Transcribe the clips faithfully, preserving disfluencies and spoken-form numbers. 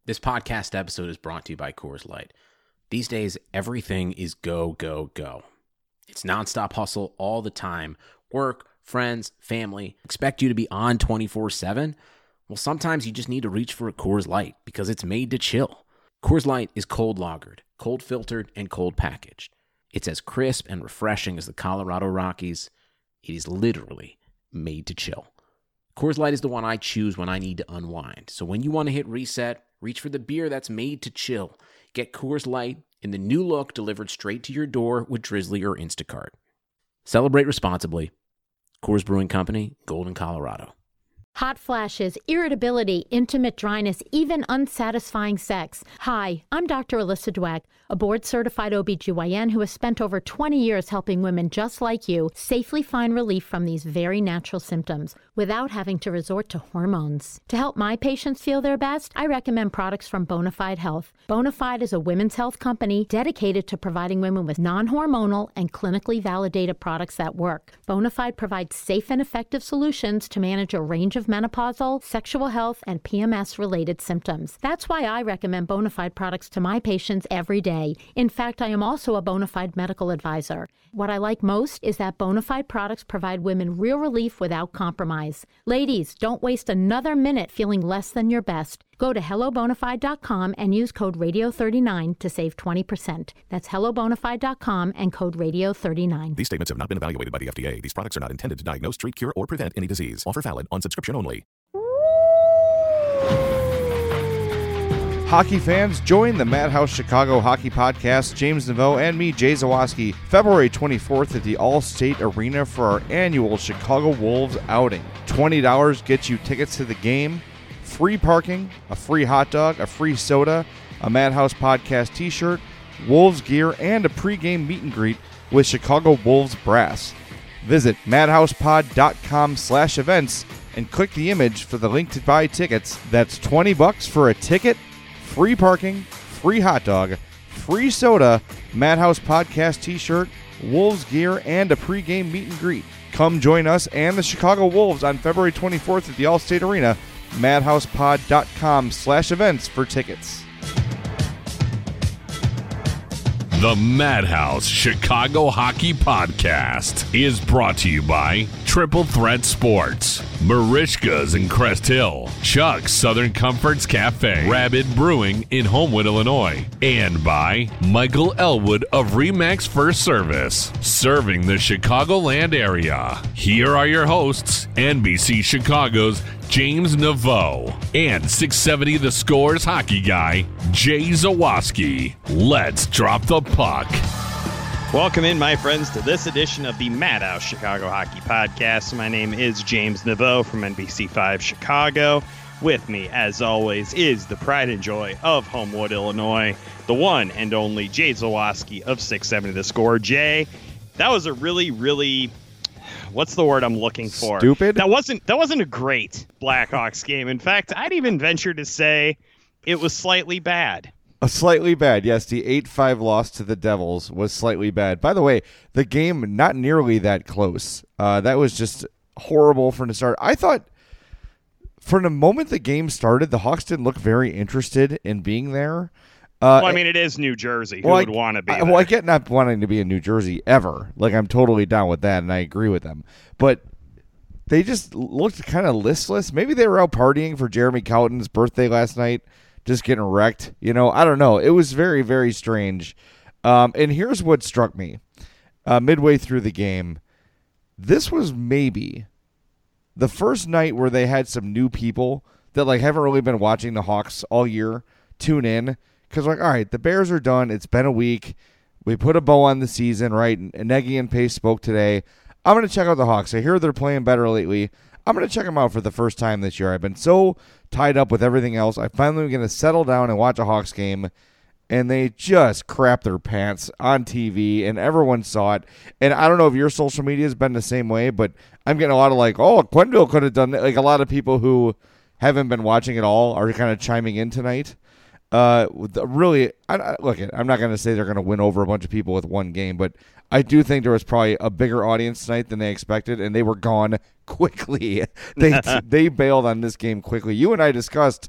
This podcast episode is brought to you by Coors Light. These days, everything is go, go, go. It's nonstop hustle all the time. Work, friends, family, expect you to be on twenty-four seven. Well, sometimes you just need to reach for a Coors Light because it's made to chill. Coors Light is cold lagered, cold filtered, and cold packaged. It's as crisp and refreshing as the Colorado Rockies. It is literally made to chill. Coors Light is the one I choose when I need to unwind. So when you want to hit reset, reach for the beer that's made to chill. Get Coors Light in the new look delivered straight to your door with Drizzly or Instacart. Celebrate responsibly. Coors Brewing Company, Golden, Colorado. Hot flashes, irritability, intimate dryness, even unsatisfying sex. Hi, I'm Doctor Alyssa Dweck, a board-certified O B G Y N who has spent over twenty years helping women just like you safely find relief from these very natural symptoms without having to resort to hormones. To help my patients feel their best, I recommend products from Bonafide Health. Bonafide is a women's health company dedicated to providing women with non-hormonal and clinically validated products that work. Bonafide provides safe and effective solutions to manage a range of menopausal, sexual health, and P M S-related symptoms. That's why I recommend Bonafide products to my patients every day. In fact, I am also a Bonafide medical advisor. What I like most is that Bonafide products provide women real relief without compromise. Ladies, don't waste another minute feeling less than your best. Go to hello bonafide dot com and use code radio thirty-nine to save twenty percent. That's hello bonafide dot com and code radio thirty-nine. These statements have not been evaluated by the F D A. These products are not intended to diagnose, treat, cure, or prevent any disease. Offer valid on subscription only. Hockey fans, join the Madhouse Chicago Hockey Podcast, James Neveau and me, Jay Zawaski, February twenty-fourth at the All-State Arena for our annual Chicago Wolves outing. twenty dollars gets you tickets to the game, free parking, a free hot dog, a free soda, a Madhouse Podcast t-shirt, Wolves gear, and a pregame meet and greet with Chicago Wolves brass. Visit madhousepod.com slash events and click the image for the link to buy tickets. That's twenty bucks for a ticket, free parking, free hot dog, free soda, Madhouse Podcast t-shirt, Wolves gear, and a pregame meet and greet. Come join us and the Chicago Wolves on February twenty-fourth at the All-State Arena. madhousepod.com slash events for tickets. The Madhouse Chicago Hockey Podcast is brought to you by Triple Threat Sports, Marishka's in Crest Hill, Chuck's Southern Comforts Cafe, Rabbit Brewing in Homewood, Illinois, and by Michael Elwood of Remax First Service, serving the Chicagoland area. Here are your hosts, N B C Chicago's James Neveau and six seventy The Score's hockey guy, Jay Zawaski. Let's drop the puck. Welcome in, my friends, to this edition of the Madhouse Chicago Hockey Podcast. My name is James Neveau from N B C five Chicago. With me, as always, is the pride and joy of Homewood, Illinois, the one and only Jay Zawaski of six seventy The Score. Jay, that was a really, really... What's the word I'm looking for? Stupid? That wasn't that wasn't a great Blackhawks game. In fact, I'd even venture to say it was slightly bad. A slightly bad, yes. The eight five loss to the Devils was slightly bad. By the way, the game not nearly that close. Uh, that was just horrible from the start. I thought from the moment the game started, the Hawks didn't look very interested in being there. Uh, well, I mean, it is New Jersey. Who well, would I, want to be I, there? Well, I get not wanting to be in New Jersey ever. Like, I'm totally down with that, and I agree with them. But they just looked kind of listless. Maybe they were out partying for Jeremy Cowton's birthday last night, just getting wrecked. You know, I don't know. It was very, very strange. Um, and here's what struck me. Uh, midway through the game, this was maybe the first night where they had some new people that, like, haven't really been watching the Hawks all year tune in. Because, like, all right, the Bears are done. It's been a week. We put a bow on the season, right? And Nagy and Pace spoke today. I'm going to check out the Hawks. I hear they're playing better lately. I'm going to check them out for the first time this year. I've been so tied up with everything else. I finally am going to settle down and watch a Hawks game. And they just crap their pants on T V, and everyone saw it. And I don't know if your social media has been the same way, but I'm getting a lot of like, oh, Quenneville could have done that. Like, a lot of people who haven't been watching at all are kind of chiming in tonight. Uh, really, I, I, look, I'm not going to say they're going to win over a bunch of people with one game, but I do think there was probably a bigger audience tonight than they expected, and they were gone quickly. they they bailed on this game quickly. You and I discussed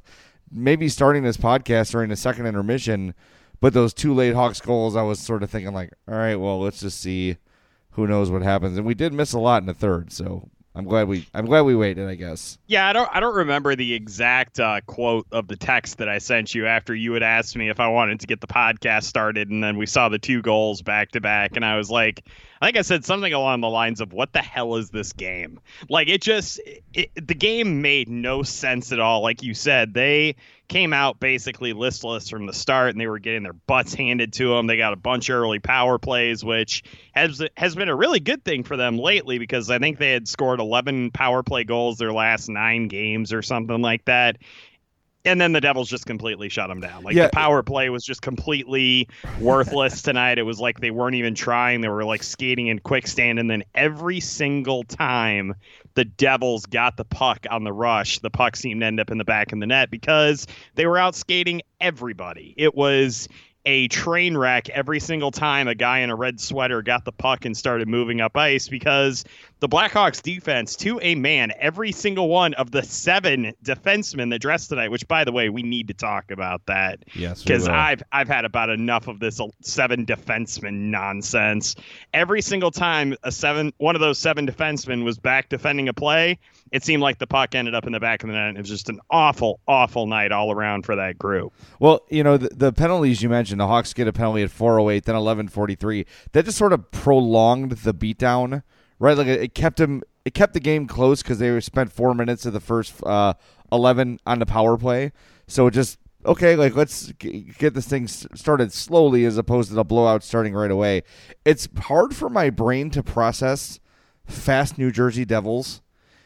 maybe starting this podcast during the second intermission, but those two late Hawks goals, I was sort of thinking like, all right, well, let's just see. Who knows what happens? And we did miss a lot in the third, so I'm glad we I'm glad we waited, I guess. Yeah, I don't I don't remember the exact uh, quote of the text that I sent you after you had asked me if I wanted to get the podcast started, and then we saw the two goals back to back, and I was like, I think I said something along the lines of, what the hell is this game? Like, it just, it, the game made no sense at all. Like you said, they came out basically listless from the start, and they were getting their butts handed to them. They got a bunch of early power plays, which has has been a really good thing for them lately, because I think they had scored eleven power play goals their last nine games or something like that. And then the Devils just completely shut them down. Like, yeah. The power play was just completely worthless tonight. It was like they weren't even trying. They were like skating in quick stand. And then every single time the Devils got the puck on the rush, the puck seemed to end up in the back of the net because they were out skating everybody. It was a train wreck every single time a guy in a red sweater got the puck and started moving up ice, because the Blackhawks defense, to a man, every single one of the seven defensemen that dressed tonight, which, by the way, we need to talk about that. Yes, because I've I've had about enough of this seven defenseman nonsense. Every single time a seven one of those seven defensemen was back defending a play, it seemed like the puck ended up in the back of the net. It was just an awful, awful night all around for that group. Well, you know, the, the penalties you mentioned, the Hawks get a penalty at four oh eight, then eleven forty-three. That just sort of prolonged the beatdown, right? Like it kept him, it kept the game close because they spent four minutes of the first uh, eleven on the power play. So it just, okay, like let's get this thing started slowly as opposed to the blowout starting right away. It's hard for my brain to process fast New Jersey Devils.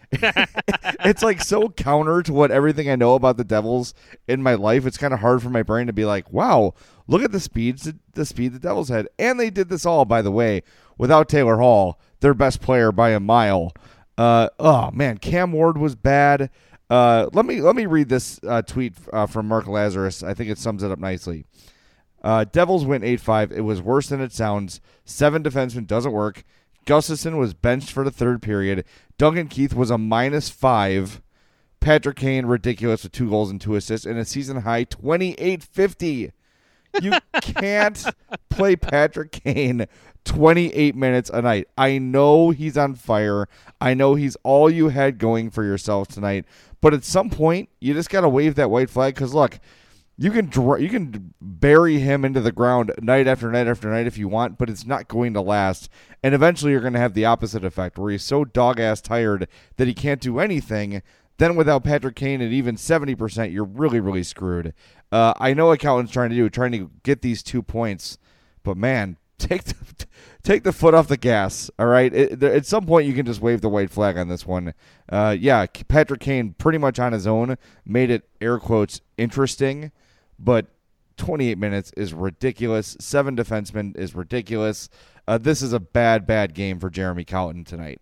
It's like so counter to what everything I know about the Devils in my life. It's kind of hard for my brain to be like, wow, look at the speeds the speed the Devils had. And they did this all, by the way, without Taylor Hall, their best player by a mile. Uh, oh man, Cam Ward was bad. Uh, let me let me read this uh, tweet uh, from Mark Lazarus. I think it sums it up nicely. Uh, Devils win eight five. It was worse than it sounds. Seven defensemen doesn't work. Gustafson was benched for the third period. Duncan Keith was a minus five. Patrick Kane, ridiculous with two goals and two assists, and a season high twenty-eight fifty. You can't play Patrick Kane twenty-eight minutes a night. I know he's on fire. I know he's all you had going for yourself tonight. But at some point, you just got to wave that white flag, because, look, You can dr- you can bury him into the ground night after night after night if you want, but it's not going to last. And eventually you're going to have the opposite effect, where he's so dog-ass tired that he can't do anything. Then without Patrick Kane at even seventy percent, you're really, really screwed. Uh, I know what Calvin's trying to do, trying to get these two points. But, man, take the, take the foot off the gas, all right? It, at some point you can just wave the white flag on this one. Uh, yeah, Patrick Kane pretty much on his own made it, air quotes, interesting. But twenty-eight minutes is ridiculous. Seven defensemen is ridiculous. Uh, this is a bad, bad game for Jeremy Colliton tonight.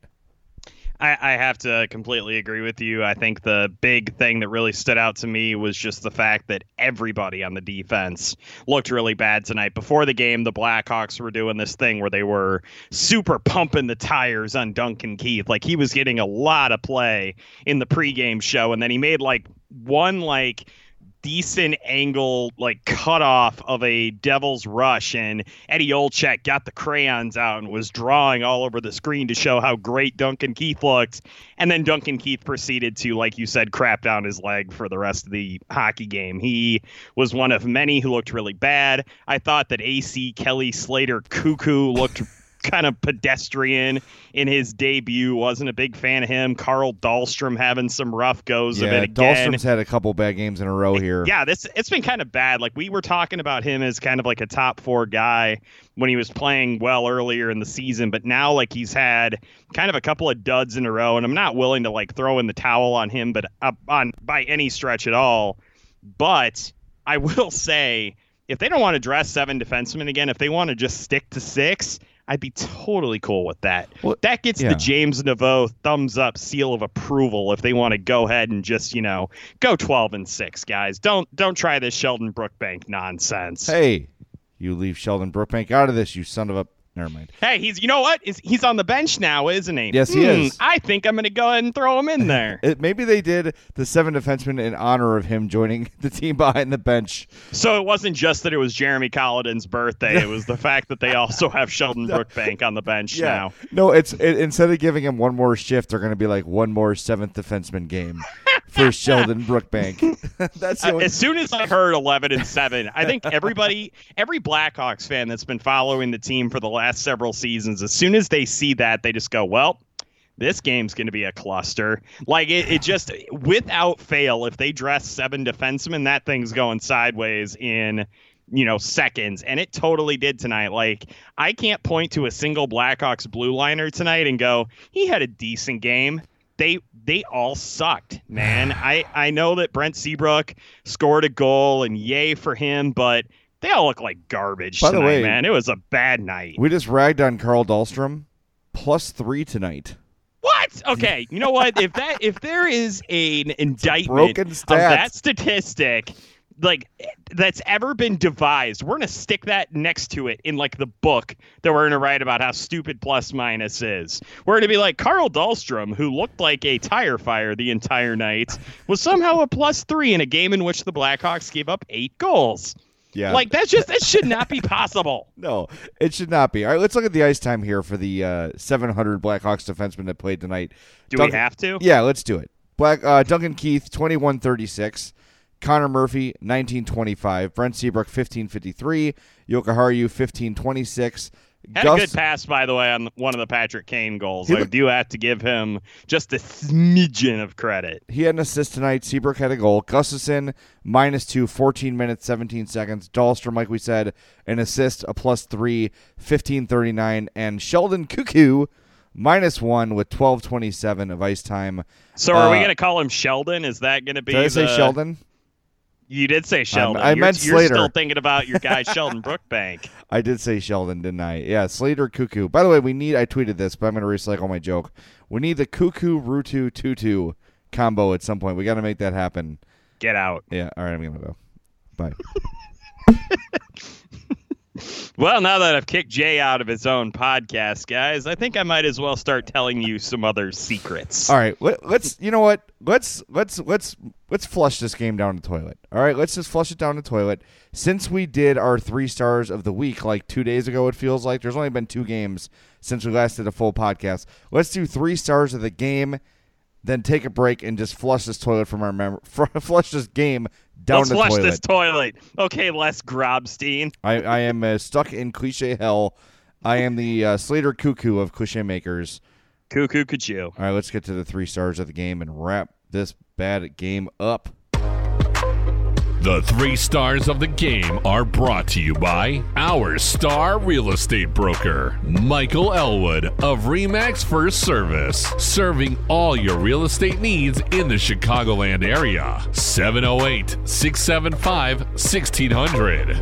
I, I have to completely agree with you. I think the big thing that really stood out to me was just the fact that everybody on the defense looked really bad tonight. Before the game, the Blackhawks were doing this thing where they were super pumping the tires on Duncan Keith. Like, he was getting a lot of play in the pregame show, and then he made like one like decent angle like cutoff of a Devils rush, and Eddie Olczyk got the crayons out and was drawing all over the screen to show how great Duncan Keith looked. And then Duncan Keith proceeded to, like you said, crap down his leg for the rest of the hockey game. He was one of many who looked really bad. I thought that A C Kelly Slater Cuckoo looked kind of pedestrian in his debut. Wasn't a big fan of him. Carl Dahlstrom having some rough goes yeah, of it again. Dahlstrom's had a couple bad games in a row here. Yeah, this it's been kind of bad. Like, we were talking about him as kind of like a top four guy when he was playing well earlier in the season, but now like he's had kind of a couple of duds in a row, and I'm not willing to like throw in the towel on him, but uh, on by any stretch at all. But I will say, if they don't want to dress seven defensemen again, if they want to just stick to six, I'd be totally cool with that. Well, that gets yeah. the James Naveau thumbs up seal of approval if they want to go ahead and just, you know, go twelve and six, guys. Don't don't try this Sheldon Brookbank nonsense. Hey, you leave Sheldon Brookbank out of this, you son of a Never mind. Hey, he's you know what? Is he's on the bench now, isn't he? Yes, he Hmm, is. I think I'm going to go ahead and throw him in there. It, maybe they did the seven defensemen in honor of him joining the team behind the bench. So it wasn't just that it was Jeremy Colliton's birthday. It was the fact that they also have Sheldon Brookbank on the bench now. No, it's it, instead of giving him one more shift, they're going to be like one more seventh defenseman game for Sheldon Brookbank. That's the Uh, only- as soon as I heard eleven and seven, I think everybody, every Blackhawks fan that's been following the team for the last several seasons, as soon as they see that, they just go, well, this game's going to be a cluster. Like, it, it just, without fail, if they dress seven defensemen, that thing's going sideways in, you know, seconds. And it totally did tonight. Like, I can't point to a single Blackhawks blue liner tonight and go, he had a decent game. They they all sucked, man. I, I know that Brent Seabrook scored a goal, and yay for him, but they all look like garbage By the tonight, way, man. It was a bad night. we just ragged on Carl Dahlstrom, plus three tonight. What? Okay, you know what? If that if there is an indictment broken of stat. that statistic, like that's ever been devised, we're gonna stick that next to it in like the book that we're gonna write about how stupid plus minus is. We're gonna be like Carl Dahlstrom, who looked like a tire fire the entire night, was somehow a plus three in a game in which the Blackhawks gave up eight goals. Yeah. Like that's just that should not be possible. No, it should not be. All right, let's look at the ice time here for the uh, seven hundred Blackhawks defensemen that played tonight. Do Duncan- we have to? Yeah, let's do it. Black uh, Duncan Keith, twenty-one thirty-six. Connor Murphy, nineteen twenty-five. Brent Seabrook, fifteen fifty-three. Yoka Haru, fifteen twenty-six. Had Gus- a good pass, by the way, on one of the Patrick Kane goals. He I looked- do have to give him just a smidgen of credit. He had an assist tonight. Seabrook had a goal. Gustafson, minus two, fourteen minutes, seventeen seconds. Dahlstrom, like we said, an assist, a plus three, fifteen thirty-nine. And Sheldon Cuckoo, minus one with twelve twenty-seven of ice time. So are we Uh, going to call him Sheldon? Is that going to be Did I say the- Sheldon? You did say Sheldon. I you're, meant you're Slater. still thinking about your guy Sheldon Brookbank. I did say Sheldon, didn't I? Yeah, Slater Cuckoo. By the way, we need, I tweeted this, but I'm going to recycle my joke. We need the Cuckoo Rutu Tutu combo at some point. We got to make that happen. Get out. Yeah, all right, I'm going to go. Bye. Well, now that I've kicked Jay out of his own podcast, guys, I think I might as well start telling you some other secrets. All right, let, let's. You know what? Let's let's let's let's flush this game down the toilet. All right, let's just flush it down the toilet. Since we did our three stars of the week like two days ago, it feels like there's only been two games since we last did a full podcast. Let's do three stars of the game, then take a break and just flush this toilet from our memory. Flush this game down Let's the flush toilet. this toilet. Okay, Les Grobstein. I I am uh, stuck in cliche hell. I am the uh, Slater Cuckoo of cliche makers. Cuckoo Cuckoo. All right, let's get to the three stars of the game and wrap this bad game up. The three stars of the game are brought to you by our star real estate broker, Michael Elwood of RE/MAX First Service, serving all your real estate needs in the Chicagoland area. seven oh eight, six seven five, one six hundred.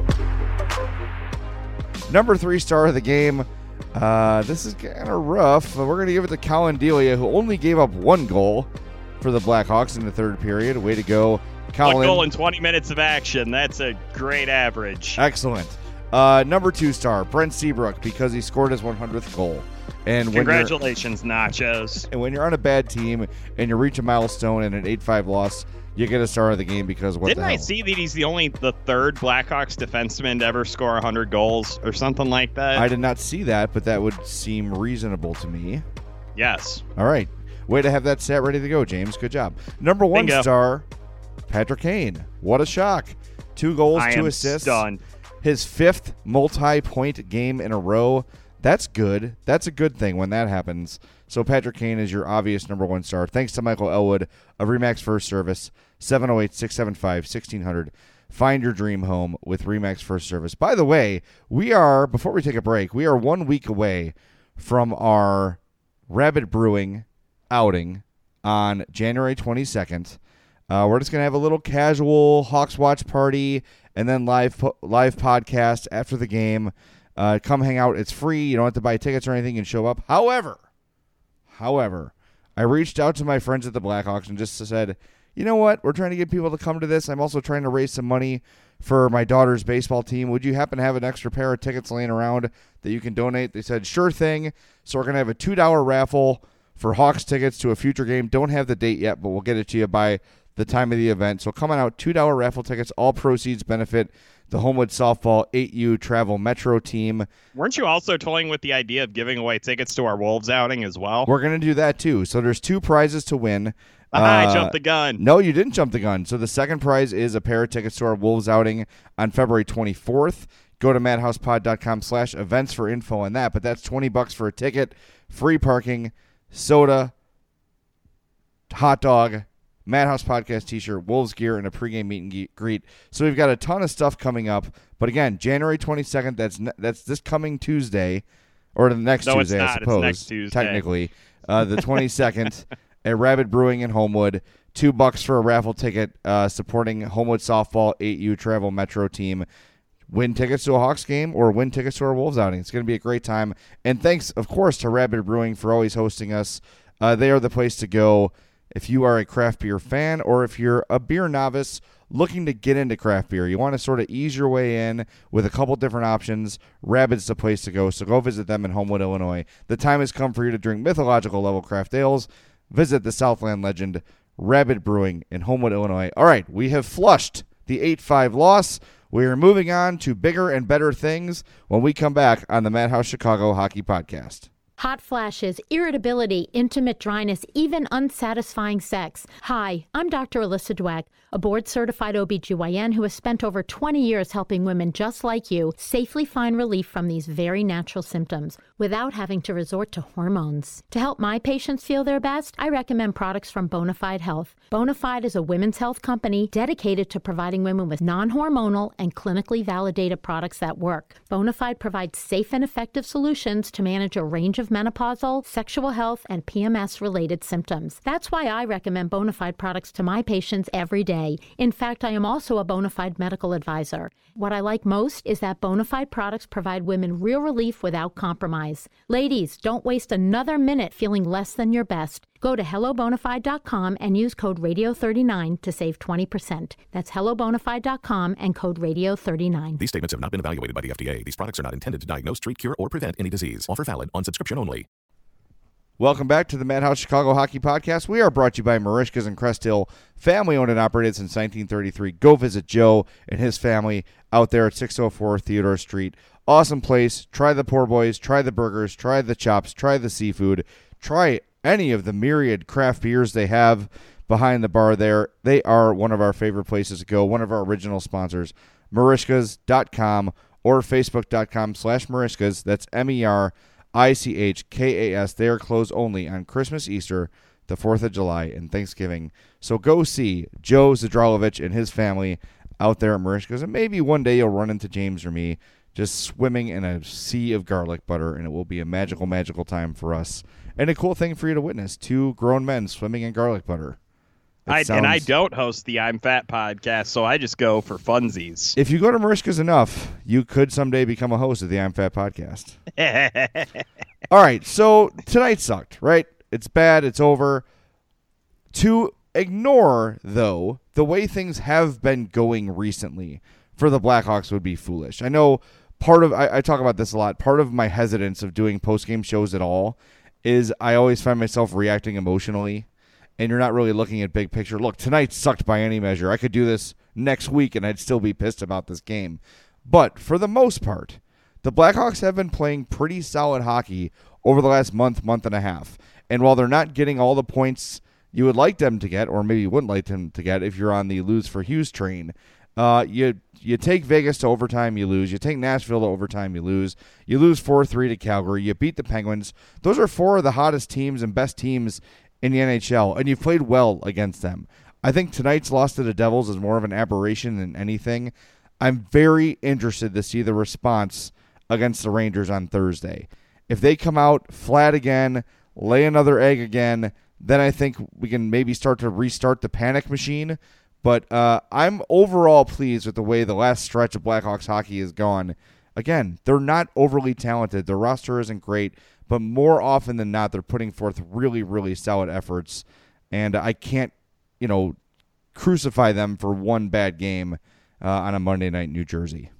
Number three star of the game. Uh, this is kind of rough. We're going to give it to Colin Delia, who only gave up one goal for the Blackhawks in the third period. Way to go, Colin. One goal in twenty minutes of action. That's a great average. Excellent. Uh, number two star, Brent Seabrook, because he scored his one hundredth goal. And when you're, Congratulations, Nachos. and when you're on a bad team and you reach a milestone and an eight five loss, you get a star of the game because what Didn't the I hell? see that he's the only the third Blackhawks defenseman to ever score one hundred goals or something like that? I did not see that, but that would seem reasonable to me. Yes. All right. Way to have that stat ready to go, James. Good job. Number one Bingo. star, Patrick Kane. What a shock. Two goals, I two am assists. stunned. His fifth multi-point game in a row. That's good. That's a good thing when that happens. So Patrick Kane is your obvious number one star. Thanks to Michael Elwood of RE/MAX First Service, seven oh eight, six seven five, one six hundred. Find your dream home with RE/MAX First Service. By the way, we are, before we take a break, we are one week away from our Rabbit Brewing outing on January twenty-second. Uh, we're just going to have a little casual Hawks watch party and then live po- live podcast after the game. Uh, come hang out. It's free. You don't have to buy tickets or anything. You can show up. However, however, I reached out to my friends at the Blackhawks and just said, you know what? We're trying to get people to come to this. I'm also trying to raise some money for my daughter's baseball team. Would you happen to have an extra pair of tickets laying around that you can donate? They said, sure thing. So we're going to have a two dollar raffle for Hawks tickets to a future game. Don't have the date yet, but we'll get it to you by the time of the event. So come on out, two dollar raffle tickets. All proceeds benefit the Homewood Softball eight U Travel Metro team. Weren't you also toying with the idea of giving away tickets to our Wolves outing as well? We're going to do that too. So there's two prizes to win. Uh, I jumped the gun. No, you didn't jump the gun. So the second prize is a pair of tickets to our Wolves outing on February twenty-fourth. Go to madhousepod.com slash events for info on that. But that's twenty bucks for a ticket, free parking, soda, hot dog, Madhouse Podcast t-shirt, Wolves gear, and a pregame meet and greet. So we've got a ton of stuff coming up. But again, January twenty-second, that's ne- that's this coming Tuesday, or the next no, Tuesday, it's not. I suppose. It's next Tuesday. Technically. Uh, the twenty-second at Rabbit Brewing in Homewood. Two bucks for a raffle ticket uh, supporting Homewood Softball eight U Travel Metro team. Win tickets to a Hawks game or win tickets to our Wolves outing. It's going to be a great time. And thanks, of course, to Rabbit Brewing for always hosting us. Uh, they are the place to go if you are a craft beer fan or if you're a beer novice looking to get into craft beer. You want to sort of ease your way in with a couple different options. Rabbit's the place to go, so go visit them in Homewood, Illinois. The time has come for you to drink mythological level craft ales. Visit the Southland legend, Rabbit Brewing in Homewood, Illinois. All right, we have flushed the eight five loss. We are moving on to bigger and better things when we come back on the Madhouse Chicago Hockey Podcast. Hot flashes, irritability, intimate dryness, even unsatisfying sex. Hi, I'm Doctor Alyssa Dweck, a board-certified O B G Y N who has spent over twenty years helping women just like you safely find relief from these very natural symptoms without having to resort to hormones. To help my patients feel their best, I recommend products from Bonafide Health. Bonafide is a women's health company dedicated to providing women with non-hormonal and clinically validated products that work. Bonafide provides safe and effective solutions to manage a range of menopausal, sexual health, and P M S-related symptoms. That's why I recommend Bonafide products to my patients every day. In fact, I am also a Bonafide medical advisor. What I like most is that Bonafide products provide women real relief without compromise. Ladies, don't waste another minute feeling less than your best. Go to hello bonafide dot com and use code radio thirty-nine to save twenty percent. That's hello bonafide dot com and code radio thirty-nine. These statements have not been evaluated by the F D A. These products are not intended to diagnose, treat, cure, or prevent any disease. Offer valid on subscription only. Welcome back to the Madhouse Chicago Hockey Podcast. We are brought to you by Marishkas and Crest Hill, family-owned and operated since nineteen thirty-three. Go visit Joe and his family out there at six oh four Theodore Street. Awesome place. Try the poor boys. Try the burgers. Try the chops. Try the seafood. Try any of the myriad craft beers they have behind the bar there. They are one of our favorite places to go, one of our original sponsors, Marishkas dot com or Facebook dot com slash Marishkas. That's M E R I C H K A S. They are closed only on Christmas, Easter, the fourth of July, and Thanksgiving. So go see Joe Zadralovich and his family out there at Marishkas, and maybe one day you'll run into James or me just swimming in a sea of garlic butter, and it will be a magical, magical time for us. And a cool thing for you to witness, two grown men swimming in garlic butter. I, sounds... And I don't host the I'm Fat podcast, so I just go for funsies. If you go to Marishkas enough, you could someday become a host of the I'm Fat podcast. All right, so tonight sucked, right? It's bad. It's over. To ignore, though, the way things have been going recently for the Blackhawks would be foolish. I know part of, I, I talk about this a lot, part of my hesitance of doing post-game shows at all is I always find myself reacting emotionally, and you're not really looking at big picture. Look, tonight sucked by any measure. I could do this next week, and I'd still be pissed about this game. But for the most part, the Blackhawks have been playing pretty solid hockey over the last month, month and a half. And while they're not getting all the points you would like them to get, or maybe you wouldn't like them to get if you're on the lose for Hughes train, uh, you you take Vegas to overtime, you lose. You take Nashville to overtime, you lose. You lose four three to Calgary. You beat the Penguins. Those are four of the hottest teams and best teams in the N H L, and you've played well against them. I think tonight's loss to the Devils is more of an aberration than anything. I'm very interested to see the response against the Rangers on Thursday. If they come out flat again, lay another egg again, then I think we can maybe start to restart the panic machine. But uh, I'm overall pleased with the way the last stretch of Blackhawks hockey has gone. Again, they're not overly talented. Their roster isn't great, but more often than not, they're putting forth really, really solid efforts. And I can't, you know, crucify them for one bad game uh, on a Monday night in New Jersey.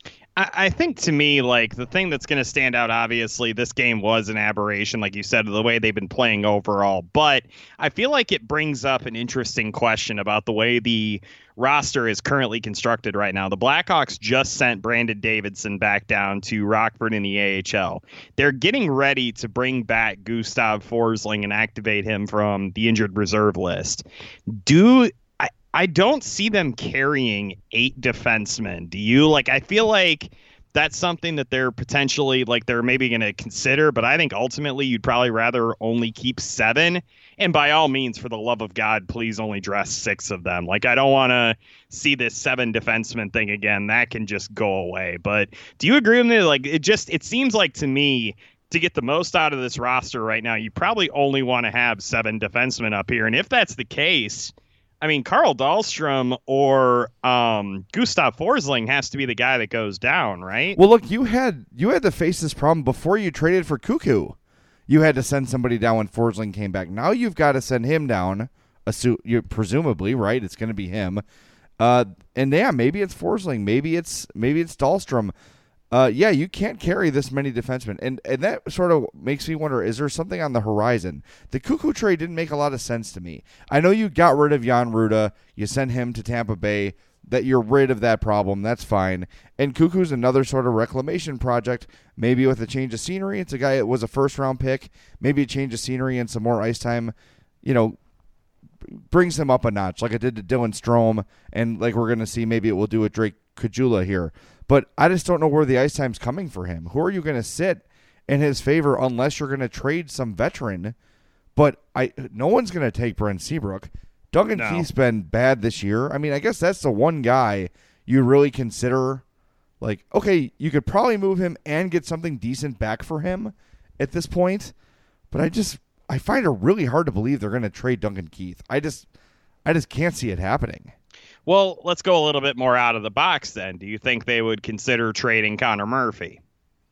I think to me, like the thing that's going to stand out, obviously, this game was an aberration, like you said, the way they've been playing overall. But I feel like it brings up an interesting question about the way the roster is currently constructed right now. The Blackhawks just sent Brandon Davidson back down to Rockford in the A H L. They're getting ready to bring back Gustav Forsling and activate him from the injured reserve list. Do I don't see them carrying eight defensemen. Do you? Like, I feel like that's something that they're potentially, like, they're maybe going to consider, but I think ultimately you'd probably rather only keep seven. And by all means, for the love of God, please only dress six of them. Like, I don't want to see this seven defenseman thing again. That can just go away. But do you agree with me? Like, it just, it seems like to me, to get the most out of this roster right now, you probably only want to have seven defensemen up here. And if that's the case, I mean, Carl Dahlstrom or um, Gustav Forsling has to be the guy that goes down, right? Well, look, you had you had to face this problem before you traded for Cuckoo. You had to send somebody down when Forsling came back. Now you've got to send him down, assume, you presumably, right? It's going to be him. Uh, and yeah, maybe it's Forsling, maybe it's maybe it's Dahlstrom. Uh, yeah, you can't carry this many defensemen. And and that sort of makes me wonder, is there something on the horizon? The Cuckoo trade didn't make a lot of sense to me. I know you got rid of Jan Ruda. You sent him to Tampa Bay. That you're rid of that problem. That's fine. And Cuckoo's another sort of reclamation project, maybe with a change of scenery. It's a guy that was a first-round pick. Maybe a change of scenery and some more ice time, you know, brings him up a notch like it did to Dylan Strome. And like we're going to see, maybe it will do with Drake Caggiula here. But I just don't know where the ice time's coming for him. Who are you going to sit in his favor unless you're going to trade some veteran? But I, no one's going to take Brent Seabrook. Duncan No. Keith's been bad this year. I mean, I guess that's the one guy you really consider, like, okay, you could probably move him and get something decent back for him at this point. But I just, I find it really hard to believe they're going to trade Duncan Keith. I just, I just can't see it happening. Well, let's go a little bit more out of the box then. Do you think they would consider trading Connor Murphy?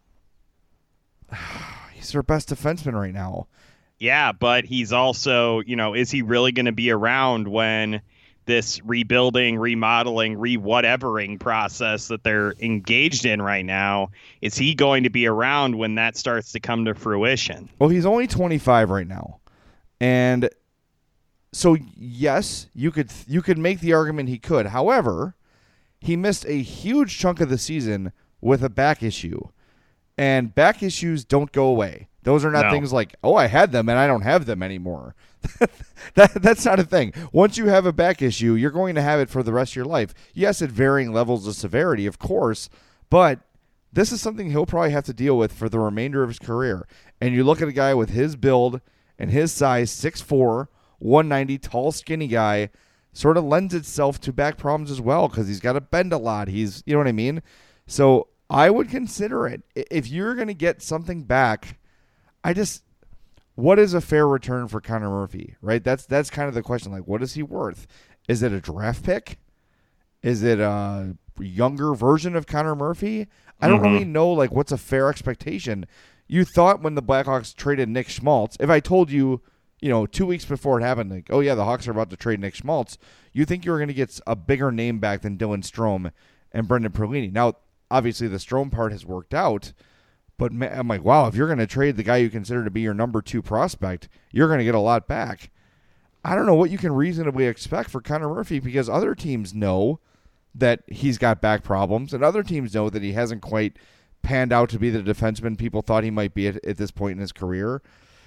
He's their best defenseman right now. Yeah, but he's also, you know, is he really going to be around when this rebuilding, remodeling, re-whatevering process that they're engaged in right now, is he going to be around when that starts to come to fruition? Well, he's only twenty-five right now. And so, yes, you could you could make the argument he could. However, he missed a huge chunk of the season with a back issue. And back issues don't go away. Those are not No. things like, oh, I had them and I don't have them anymore. that That's not a thing. Once you have a back issue, you're going to have it for the rest of your life. Yes, at varying levels of severity, of course, but this is something he'll probably have to deal with for the remainder of his career. And you look at a guy with his build and his size, six foot four, one ninety, tall, skinny guy, sort of lends itself to back problems as well because he's got to bend a lot. He's, you know what I mean? So I would consider it. If you're going to get something back, I just, what is a fair return for Connor Murphy, right? That's that's kind of the question. Like, what is he worth? Is it a draft pick? Is it a younger version of Connor Murphy? I don't Mhm. really know, like, what's a fair expectation. You thought when the Blackhawks traded Nick Schmaltz, if I told you, you know, two weeks before it happened, like, oh, yeah, the Hawks are about to trade Nick Schmaltz, you think you were going to get a bigger name back than Dylan Strome and Brendan Perlini. Now, obviously, the Strome part has worked out, but man, I'm like, wow, if you're going to trade the guy you consider to be your number two prospect, you're going to get a lot back. I don't know what you can reasonably expect for Connor Murphy because other teams know that he's got back problems, and other teams know that he hasn't quite panned out to be the defenseman people thought he might be at, at this point in his career.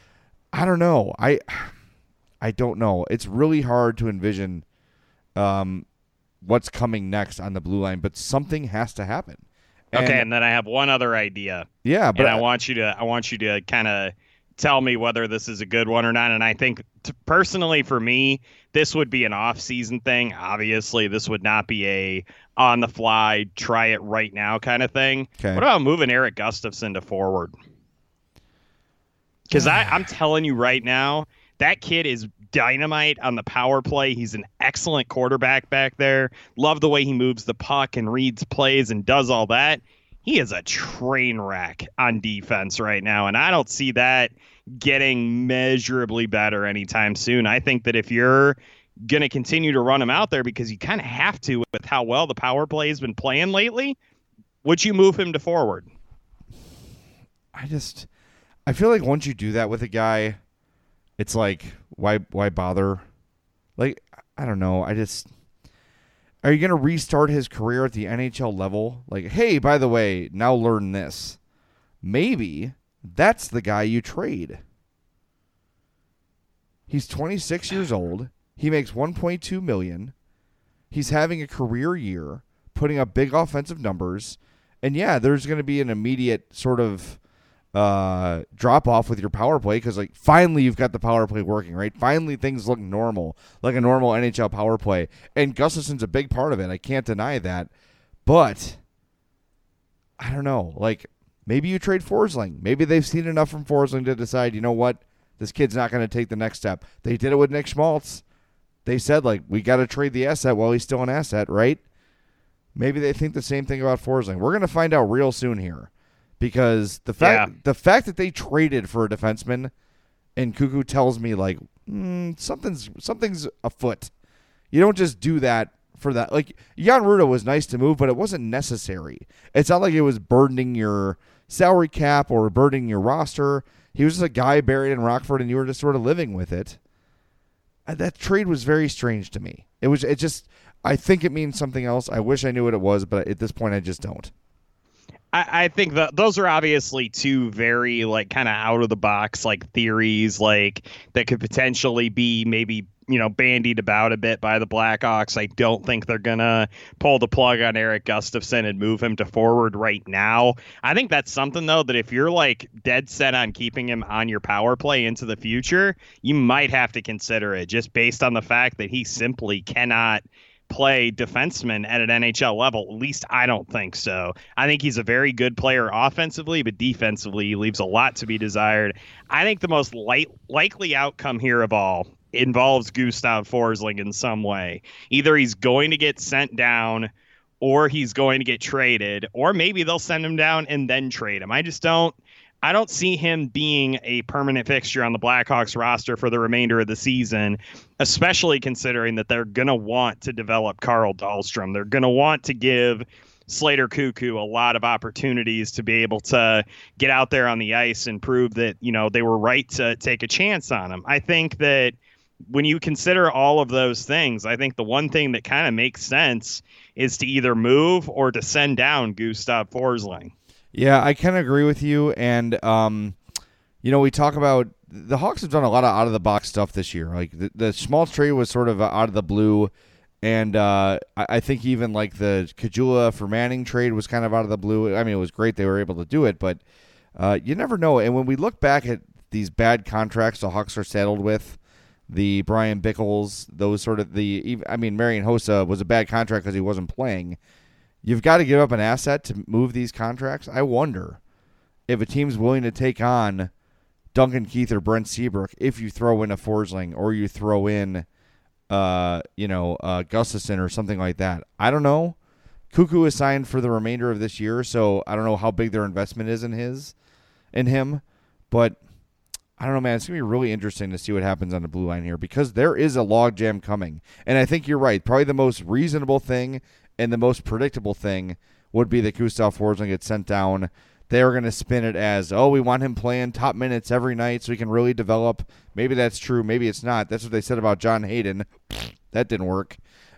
I don't know. I I don't know. It's really hard to envision um, what's coming next on the blue line, but something has to happen. And, Okay, and then I have one other idea. yeah, but and I want you to I want you to kind of tell me whether this is a good one or not. And I think t- personally for me, this would be an off-season thing. Obviously, this would not be a on-the-fly, try it right now kind of thing. Okay. What about moving Eric Gustafson to forward? Because I'm telling you right now, that kid is dynamite on the power play. He's an excellent quarterback back there. Love the way he moves the puck and reads plays and does all that. He is a train wreck on defense right now, and I don't see that getting measurably better anytime soon. I think that if you're going to continue to run him out there because you kind of have to with how well the power play has been playing lately, would you move him to forward? I just, I feel like once you do that with a guy, it's like, why, why bother? Like, I don't know. I just, are you going to restart his career at the N H L level? Like, hey, by the way, now learn this. Maybe that's the guy you trade. He's twenty-six years old. He makes one point two million dollars. He's having a career year, putting up big offensive numbers. And yeah, there's going to be an immediate sort of uh, drop off with your power play because, like, finally you've got the power play working, right? Finally things look normal, like a normal N H L power play. And Gustafson's a big part of it. I can't deny that. But I don't know. Like, maybe you trade Forsling. Maybe they've seen enough from Forsling to decide, you know what? This kid's not going to take the next step. They did it with Nick Schmaltz. They said, like, we got to trade the asset while he's still an asset, right? Maybe they think the same thing about Forsling. We're going to find out real soon here because the fact yeah. the fact that they traded for a defenseman and Cuckoo tells me, like, mm, something's something's afoot. You don't just do that for that. Like, Jan Rutta was nice to move, but it wasn't necessary. It's not like it was burdening your salary cap or burdening your roster. He was just a guy buried in Rockford, and you were just sort of living with it. That trade was very strange to me. It was. It just. I think it means something else. I wish I knew what it was, but at this point, I just don't. I, I think that those are obviously two very, like, kind of out of the box, like, theories, like, that could potentially be maybe, you know, bandied about a bit by the Blackhawks. I don't think they're going to pull the plug on Erik Gustafsson and move him to forward right now. I think that's something, though, that if you're, like, dead set on keeping him on your power play into the future, you might have to consider it just based on the fact that he simply cannot play defenseman at an N H L level. At least I don't think so. I think he's a very good player offensively, but defensively he leaves a lot to be desired. I think the most light, likely outcome here of all involves Gustav Forsling in some way. Either he's going to get sent down or he's going to get traded, or maybe they'll send him down and then trade him. I just don't I don't see him being a permanent fixture on the Blackhawks roster for the remainder of the season, especially considering that they're going to want to develop Carl Dahlstrom. They're going to want to give Slater Cuckoo a lot of opportunities to be able to get out there on the ice and prove that, you know, they were right to take a chance on him. I think that when you consider all of those things, I think the one thing that kind of makes sense is to either move or to send down Gustav Forsling. Yeah, I can agree with you. And, um, you know, we talk about the Hawks have done a lot of out-of-the-box stuff this year. Like, the, the Schmaltz trade was sort of out of the blue. And uh, I, I think even, like, the Kajula for Manning trade was kind of out of the blue. I mean, it was great they were able to do it, but uh, you never know. And when we look back at these bad contracts the Hawks are saddled with, the Brian Bickles, those sort of the – I mean, Marian Hossa was a bad contract because he wasn't playing. You've got to give up an asset to move these contracts. I wonder if a team's willing to take on Duncan Keith or Brent Seabrook if you throw in a Forsling or you throw in, uh, you know, uh, Gustafsson or something like that. I don't know. Cuckoo is signed for the remainder of this year, so I don't know how big their investment is in his, in him. But I don't know, man. It's going to be really interesting to see what happens on the blue line here because there is a logjam coming. And I think you're right. Probably the most reasonable thing and the most predictable thing would be that Gustav Forsling gets sent down. They're going to spin it as, oh, we want him playing top minutes every night so he can really develop. Maybe that's true. Maybe it's not. That's what they said about John Hayden. That didn't work.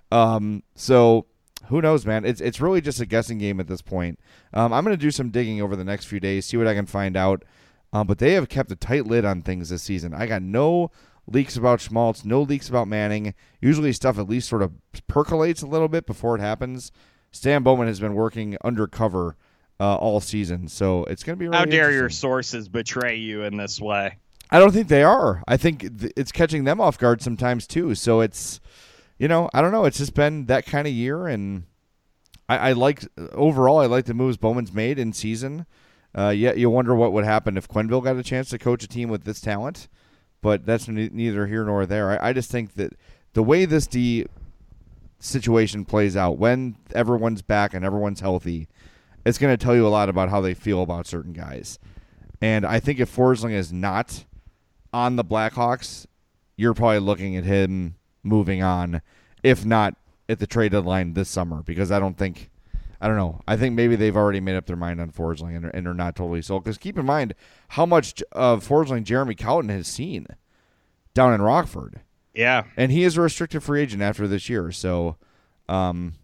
Um, so who knows, man? It's it's really just a guessing game at this point. Um, I'm going to do some digging over the next few days, see what I can find out. Um, but they have kept a tight lid on things this season. I got no leaks about Schmaltz, no leaks about Manning. Usually stuff at least sort of percolates a little bit before it happens. Stan Bowman has been working undercover uh, all season, so it's going to be really How dare your sources betray you in this way? I don't think they are. I think th- it's catching them off guard sometimes too. So it's, you know, I don't know. It's just been that kind of year, and I, I like overall. I like the moves Bowman's made in season. Uh, yet you wonder what would happen if Quenneville got a chance to coach a team with this talent. But that's ne- neither here nor there. I, I just think that the way this D situation plays out, when everyone's back and everyone's healthy, it's going to tell you a lot about how they feel about certain guys. And I think if Forsling is not on the Blackhawks, you're probably looking at him moving on, if not at the trade deadline this summer, because I don't think, I don't know, I think maybe they've already made up their mind on Forsling and, and are not totally sold. Because keep in mind how much of Forsling Jeremy Cowton has seen down in Rockford. Yeah. And he is a restricted free agent after this year. So, um,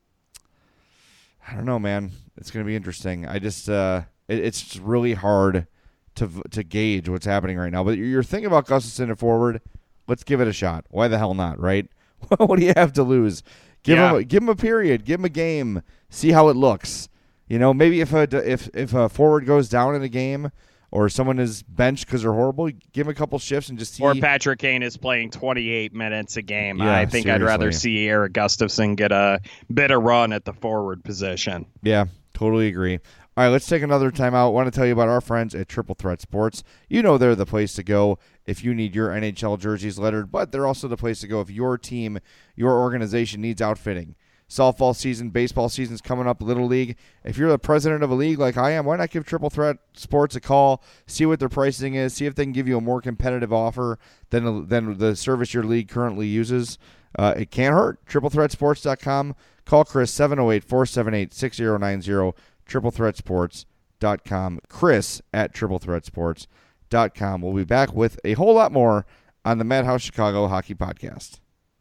I don't know, man. It's going to be interesting. I just, uh, it, it's just really hard to to gauge what's happening right now. But you're thinking about Gustafson at forward. Let's give it a shot. Why the hell not, right? What do you have to lose? Give yeah. him, a, give him a period. Give him a game. See how it looks. You know, maybe if a if if a forward goes down in a game, or someone is benched because they're horrible, give him a couple shifts and just see. Or Patrick Kane is playing twenty-eight minutes a game. Yeah, I think seriously. I'd rather see Eric Gustafson get a bit of run at the forward position. Yeah, totally agree. All right, let's take another time out. I want to tell you about our friends at Triple Threat Sports. You know they're the place to go if you need your N H L jerseys lettered, but they're also the place to go if your team, your organization needs outfitting. Softball season, baseball season's coming up, Little League. If you're the president of a league like I am, why not give Triple Threat Sports a call, see what their pricing is, see if they can give you a more competitive offer than, than the service your league currently uses. Uh, it can't hurt. triple threat sports dot com. Call Chris seven oh eight, four seven eight, six oh nine oh. triple threat sports dot com. Chris at triple threat sports dot com. We'll be back with a whole lot more on the Madhouse Chicago Hockey Podcast.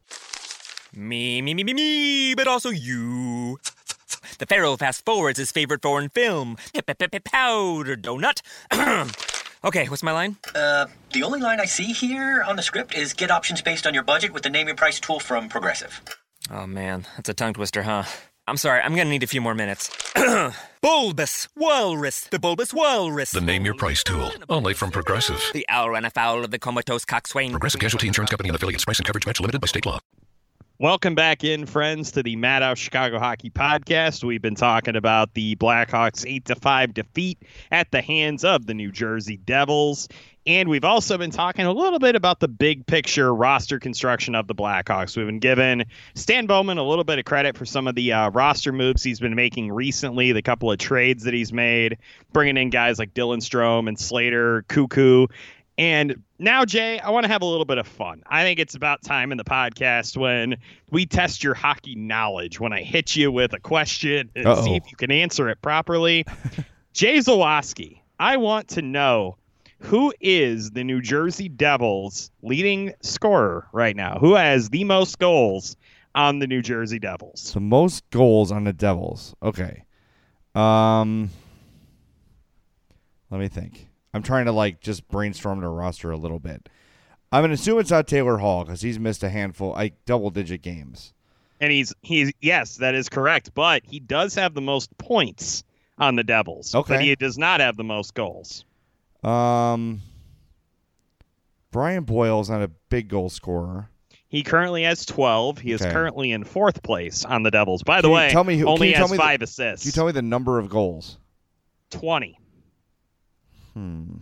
Me, me, me, me, me, but also you. The Pharaoh fast forwards his favorite foreign film, Powder Donut. Okay, what's my line? Uh, the only line I see here on the script is get options based on your budget with the Name Your Price tool from Progressive. Oh, man, that's a tongue twister, huh? I'm sorry, I'm gonna need a few more minutes. Bulbous Walrus, the Bulbous Walrus. The Name Your Price tool, only from Progressive. The owl ran afoul of the comatose coxswain. Progressive Casualty Insurance Company and affiliates. Price and coverage match limited by state law. Welcome back in, friends, to the Madhouse Chicago Hockey Podcast. We've been talking about the Blackhawks' eight to five defeat at the hands of the New Jersey Devils. And we've also been talking a little bit about the big picture roster construction of the Blackhawks. We've been giving Stan Bowman a little bit of credit for some of the uh, roster moves he's been making recently, the couple of trades that he's made, bringing in guys like Dylan Strome and Slater, Cuckoo. And now, Jay, I want to have a little bit of fun. I think it's about time in the podcast when we test your hockey knowledge, when I hit you with a question and Uh-oh. see if you can answer it properly. Jay Zawaski, I want to know, who is the New Jersey Devils' leading scorer right now? Who has the most goals on the New Jersey Devils? The most goals on the Devils. Okay. Um, let me think. I'm trying to, like, just brainstorm the roster a little bit. I'm going to assume it's not Taylor Hall because he's missed a handful, like, double-digit games. And he's, he's yes, that is correct. But he does have the most points on the Devils. Okay. But he does not have the most goals. Um, Brian Boyle's not a big goal scorer. He currently has twelve. He is Okay. currently in fourth place on the Devils. By Can the you way, tell me who- can only you tell has me the- five assists. Can you tell me the number of goals? twenty. Hmm.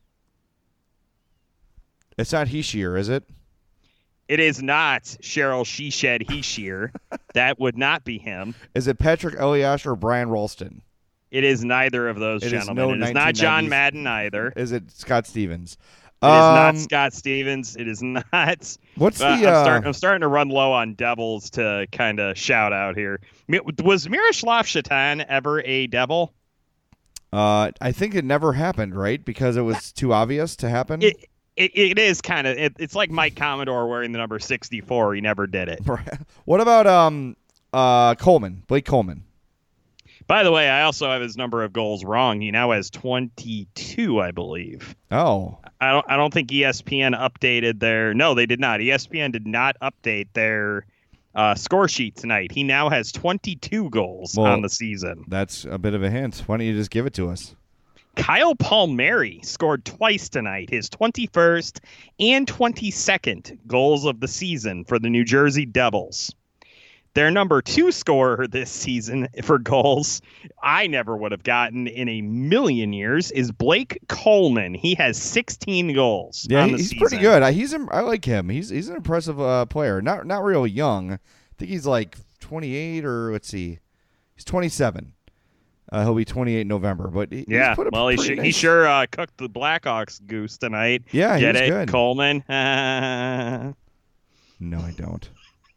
It's not Heishier, is it? It is not Cheryl She Shed He Shear. That would not be him. Is it Patrick Elias or Brian Ralston? It is neither of those It is gentlemen. no it is not John nineteen nineties Madden either. It Is it Scott Stevens? is not Um, Scott Stevens. It is not. What's Uh, the? I'm, Uh, start, I'm starting to run low on Devils to kind of shout out here. Mi- Was Miroslav Shatan ever a Devil? uh, I think it never happened, right? Because it was too obvious to happen. It it, it is kind of. It, it's like Mike Commodore wearing the number sixty-four. He never did it. What about um, uh, Coleman? Blake Coleman. By the way, I also have his number of goals wrong. He now has twenty-two, I believe. Oh, I don't. I don't think E S P N updated their. No, they did not. E S P N did not update their uh, score sheet tonight. He now has twenty-two goals Well, on the season. that's a bit of a hint. Why don't you just give it to us? Kyle Palmieri scored twice tonight. His twenty-first and twenty-second goals of the season for the New Jersey Devils. Their number two scorer this season for goals, I never would have gotten in a million years, is Blake Coleman. He has sixteen goals. Yeah, on he- the he's season. pretty good. I, he's im- I like him. He's he's an impressive uh, player. Not not real young. I think he's like twenty-eight or let's see, he's twenty-seven. Uh, he'll be twenty-eight in November. But he, Yeah, he's put a well, he, pretty sh- he nice- sure uh, cooked the Blackhawks goose tonight. Yeah, he Get was it, good. Coleman? No, I don't.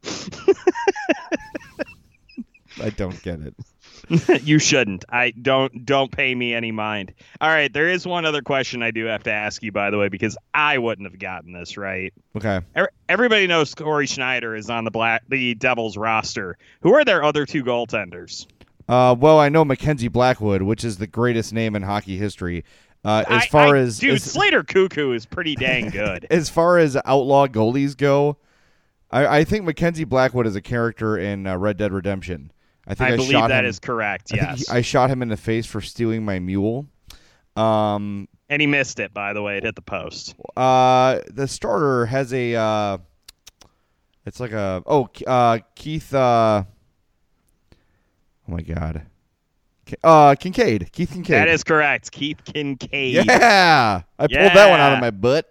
I don't get it. You shouldn't. I don't don't pay me any mind. All right, there is one other question I do have to ask you, by the way, because I wouldn't have gotten this right. Okay. Everybody knows Corey Schneider is on the black the Devils roster. Who are their other two goaltenders? Uh, well, I know Mackenzie Blackwood, which is the greatest name in hockey history. Uh, as I, far I, as dude, as, Slater Cuckoo is pretty dang good. As far as outlaw goalies go, I, I think Mackenzie Blackwood is a character in uh, Red Dead Redemption. I think I, I believe shot that him, is correct. I Yes, think he, I shot him in the face for stealing my mule. Um, and he missed it. By the way, it hit the post. Uh, the starter has a. Uh, it's like a oh uh, Keith. Uh, oh my God. Uh, Kincaid. Keith Kincaid. That is correct. Keith Kincaid. Yeah, I pulled yeah. that one out of my butt.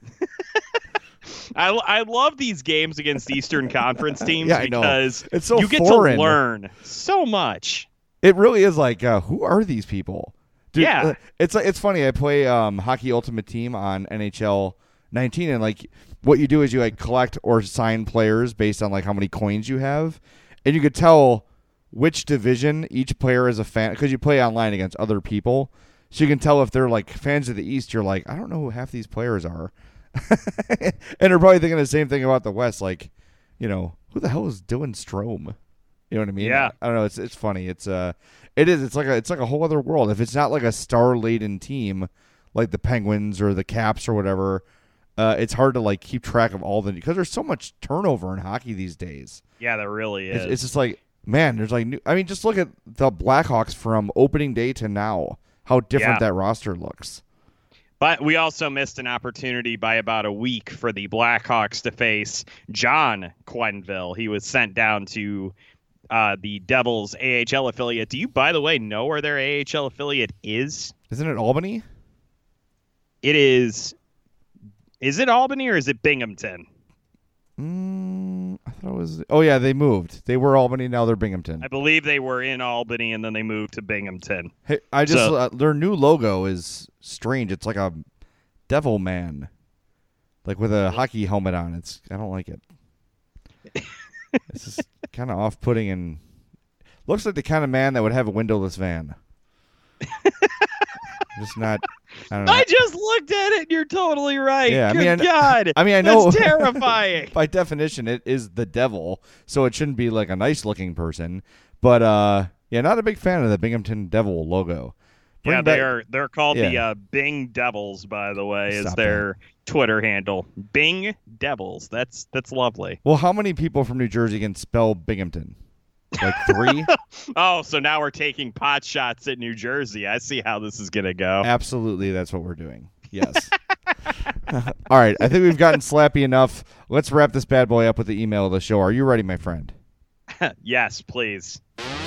I, I love these games against Eastern Conference teams yeah, I know. because it's so you get foreign. to learn so much. It really is like, uh, who are these people? Dude, yeah, uh, it's it's funny. I play um, Hockey Ultimate Team on N H L nineteen, and like what you do is you like collect or sign players based on like how many coins you have, and you could tell which division each player is a fan because you play online against other people, so you can tell if they're like fans of the East. You're like, I don't know who half these players are. And they're probably thinking the same thing about the West, like, you know, who the hell is Dylan Strome? You know what I mean? Yeah. I don't know. It's it's funny. It's uh, it is. It's like a it's like a whole other world. If it's not like a star laden team, like the Penguins or the Caps or whatever, uh, it's hard to like keep track of all the because there's so much turnover in hockey these days. Yeah, there really is. It's, it's just like man, there's like new. I mean, just look at the Blackhawks from opening day to now. How different yeah. that roster looks. But we also missed an opportunity by about a week for the Blackhawks to face John Quenneville. He was sent down to uh, the Devils' A H L affiliate. Do you, by the way, know where their A H L affiliate is? Isn't it Albany? It is. Is it Albany or is it Binghamton? Mm, I thought it was. Oh, yeah, they moved. They were Albany. Now they're Binghamton. I believe they were in Albany and then they moved to Binghamton. Hey, I just So- uh, their new logo is strange. It's like a devil man, like with a hockey helmet on. It's I don't like it. It's just kind of off-putting and looks like the kind of man that would have a windowless van. Just not. I don't know. I just looked at it and you're totally right. Yeah, I Good mean, I kn- God. I mean, I know. That's terrifying. By definition, it is the devil, so it shouldn't be like a nice-looking person. But uh, yeah, not a big fan of the Binghamton Devil logo. Bring yeah, back- they are. They're called the Yeah. uh, Bing Devils, by the way, is Stop their Twitter handle. Bing Devils. That's that's lovely. Well, how many people from New Jersey can spell Binghamton? Like three? Oh, so now we're taking pot shots at New Jersey. I see how this is gonna go. Absolutely, that's what we're doing. Yes. All right, I think we've gotten slappy enough. Let's wrap this bad boy up with the email of the show. Are you ready, my friend? Yes, please.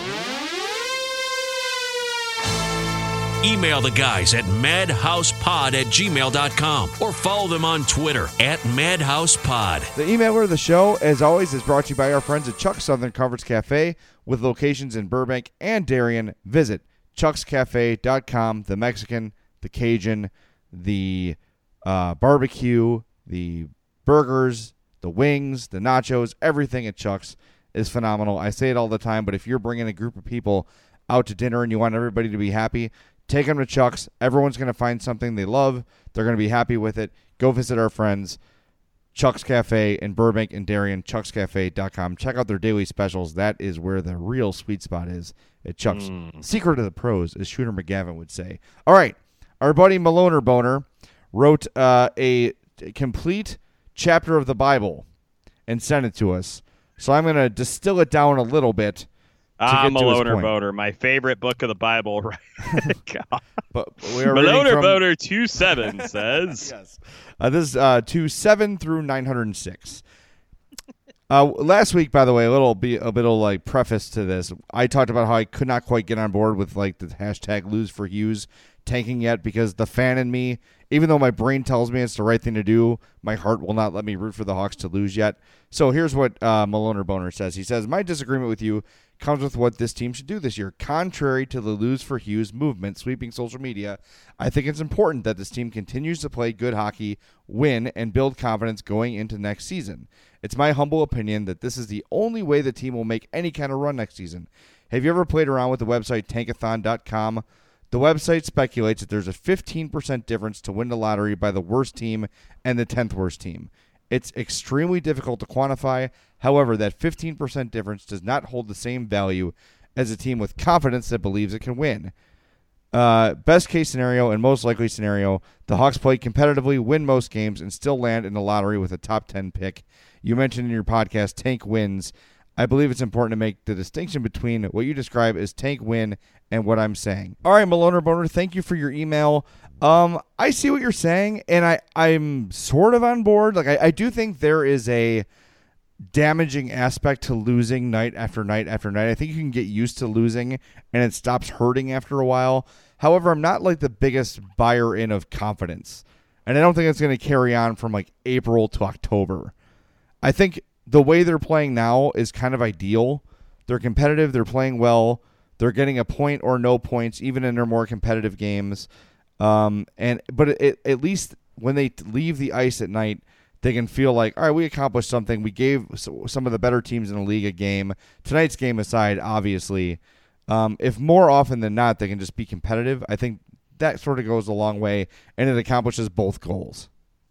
Email the guys at madhousepod at gmail dot com or follow them on Twitter at madhousepod. The emailer of the show, as always, is brought to you by our friends at Chuck's Southern Comforts Cafe with locations in Burbank and Darien. Visit chucks cafe dot com. The Mexican, the Cajun, the uh, barbecue, the burgers, the wings, the nachos, everything at Chuck's is phenomenal. I say it all the time, but if you're bringing a group of people out to dinner and you want everybody to be happy, take them to Chuck's. Everyone's going to find something they love. They're going to be happy with it. Go visit our friends, Chuck's Cafe in Burbank and Darien, chucks cafe dot com. Check out their daily specials. That is where the real sweet spot is at Chuck's. Mm. Secret of the pros, as Shooter McGavin would say. All right. Our buddy Maloner Boner wrote uh, a complete chapter of the Bible and sent it to us. So I'm going to distill it down a little bit. I'm a to his loner point. boater. My favorite book of the Bible. Right? God. But we are reading Maloner from- boater two seven says. Yes. Uh, this is uh, to seven through nine hundred six. Uh, last week, by the way, a little be a bit of like preface to this. I talked about how I could not quite get on board with like the hashtag lose for Hughes tanking yet because the fan in me, even though my brain tells me it's the right thing to do, my heart will not let me root for the Hawks to lose yet. So here's what uh, Maloner Boner says. He says, my disagreement with you comes with what this team should do this year. Contrary to the lose for Hughes movement sweeping social media, I think it's important that this team continues to play good hockey, win, and build confidence going into next season. It's my humble opinion that this is the only way the team will make any kind of run next season. Have you ever played around with the website tankathon dot com? The website speculates that there's a fifteen percent difference to win the lottery by the worst team and the tenth worst team. It's extremely difficult to quantify. However, that fifteen percent difference does not hold the same value as a team with confidence that believes it can win. Uh, best case scenario and most likely scenario, the Hawks play competitively, win most games, and still land in the lottery with a top ten pick. You mentioned in your podcast, tank wins. I believe it's important to make the distinction between what you describe as tank win and what I'm saying. All right, Maloner Boner, thank you for your email. Um, I see what you're saying, and I, I'm sort of on board. Like I, I do think there is a damaging aspect to losing night after night after night. I think you can get used to losing, and it stops hurting after a while. However, I'm not like the biggest buyer in of confidence, and I don't think it's going to carry on from like April to October. I think the way they're playing now is kind of ideal. They're competitive. They're playing well. They're getting a point or no points, even in their more competitive games. Um, and but it, at least when they leave the ice at night, they can feel like, all right, we accomplished something. We gave some of the better teams in the league a game. Tonight's game aside, obviously, um, if more often than not they can just be competitive, I think that sort of goes a long way, and it accomplishes both goals.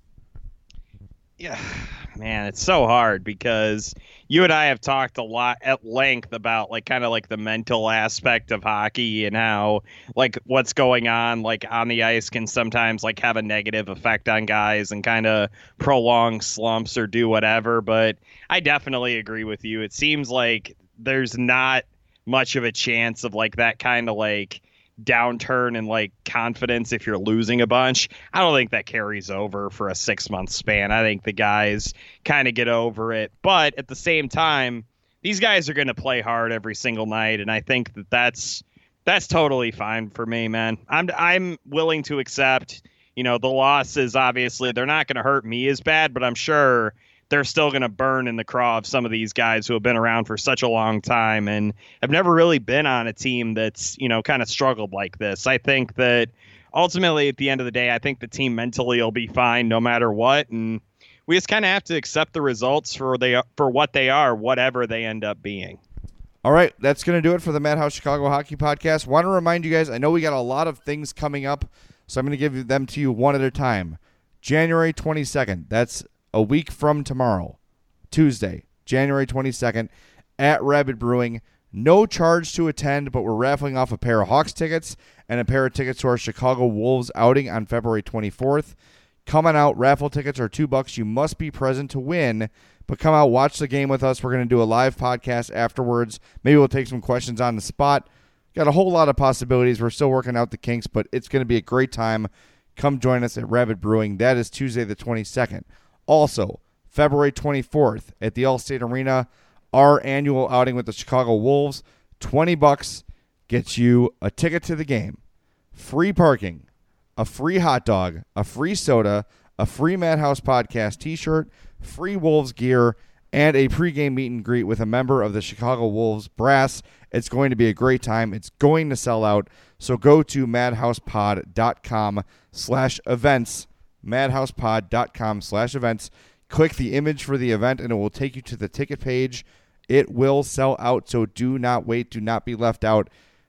Yeah, man, it's so hard because you and I have talked a lot at length about like kind of like the mental aspect of hockey and how like what's going on like on the ice can sometimes like have a negative effect on guys and kind of prolong slumps or do whatever. But I definitely agree with you. It seems like there's not much of a chance of like that kind of like downturn in like confidence if you're losing a bunch. I don't think that carries over for a six month span. I think the guys kind of get over it, but at the same time, these guys are going to play hard every single night, and I think that that's that's totally fine for me, man. I'm I'm willing to accept, you know, the losses. Obviously, they're not going to hurt me as bad, but I'm sure they're still going to burn in the craw of some of these guys who have been around for such a long time and have never really been on a team that's, you know, kind of struggled like this. I think that ultimately at the end of the day, I think the team mentally will be fine no matter what. And we just kind of have to accept the results for they for what they are, whatever they end up being. All right, that's going to do it for the Madhouse Chicago Hockey Podcast. Want to remind you guys, I know we got a lot of things coming up, so I'm going to give them to you one at a time. January twenty-second, that's a week from tomorrow, Tuesday, January twenty-second, at Rabid Brewing. No charge to attend, but we're raffling off a pair of Hawks tickets and a pair of tickets to our Chicago Wolves outing on February twenty-fourth. Coming out, raffle tickets are two bucks. You must be present to win, but come out, watch the game with us. We're going to do a live podcast afterwards. Maybe we'll take some questions on the spot. Got a whole lot of possibilities. We're still working out the kinks, but it's going to be a great time. Come join us at Rabid Brewing. That is Tuesday the twenty-second. Also, February twenty-fourth at the Allstate Arena, our annual outing with the Chicago Wolves. twenty bucks gets you a ticket to the game, free parking, a free hot dog, a free soda, a free Madhouse Podcast t-shirt, free Wolves gear, and a pregame meet and greet with a member of the Chicago Wolves brass. It's going to be a great time. It's going to sell out. So go to madhousepod.com slash events. madhousepod.com slash events. Click the image for the event, and it will take you to the ticket page. It will sell out, so do not wait. Do not be left out.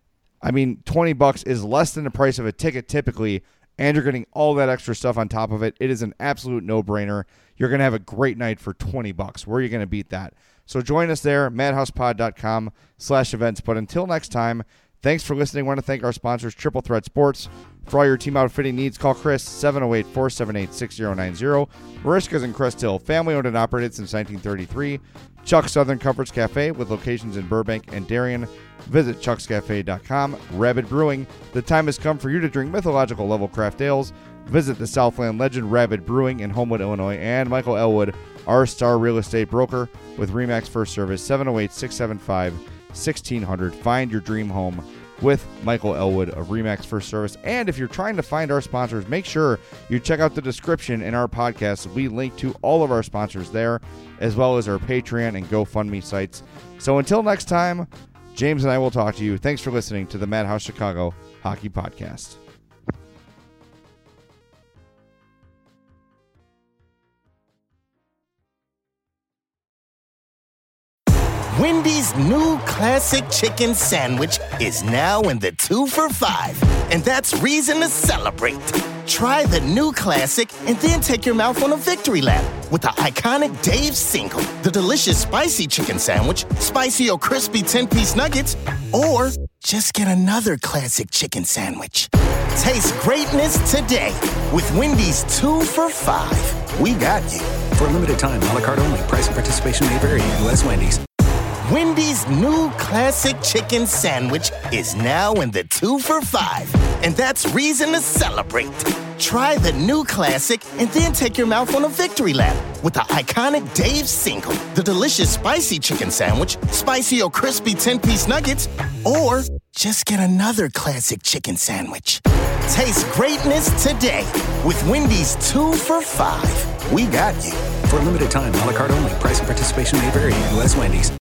I mean, twenty bucks is less than the price of a ticket typically, and you're getting all that extra stuff on top of it. It is an absolute no-brainer. You're going to have a great night for twenty bucks. Where are you going to beat that? So join us there, madhousepod.com slash events. But until next time, thanks for listening. I want to thank our sponsors, Triple Threat Sports. For all your team outfitting needs, call Chris, seven oh eight, four seven eight, six oh nine oh. Marishka's in Crest Hill, family owned and operated since nineteen thirty-three. Chuck's Southern Comforts Cafe with locations in Burbank and Darien. Visit chucks cafe dot com. Rabid Brewing. The time has come for you to drink mythological level craft ales. Visit the Southland legend Rabid Brewing in Homewood, Illinois. And Michael Elwood, our star real estate broker with RE/MAX First Service, seven oh eight, six seven five, one six zero zero. Find your dream home with Michael Elwood of RE/MAX First Service. And if you're trying to find our sponsors, make sure you check out the description in our podcast. We link to all of our sponsors there, as well as our Patreon and GoFundMe sites. So until next time, James and I will talk to you. Thanks for listening to the Madhouse Chicago Hockey Podcast. Wendy's new classic chicken sandwich is now in the two for five, and that's reason to celebrate. Try the new classic and then take your mouth on a victory lap with the iconic Dave's Single, the delicious spicy chicken sandwich, spicy or crispy ten-piece nuggets, or just get another classic chicken sandwich. Taste greatness today with Wendy's two for five. We got you. For a limited time, a la carte only. Price and participation may vary. U S Wendy's. Wendy's new classic chicken sandwich is now in the two for five, and that's reason to celebrate. Try the new classic and then take your mouth on a victory lap with the iconic Dave's Single, the delicious spicy chicken sandwich, spicy or crispy ten-piece nuggets, or just get another classic chicken sandwich. Taste greatness today with Wendy's two for five. We got you. For a limited time, a la carte only. Price and participation may vary. U S Wendy's.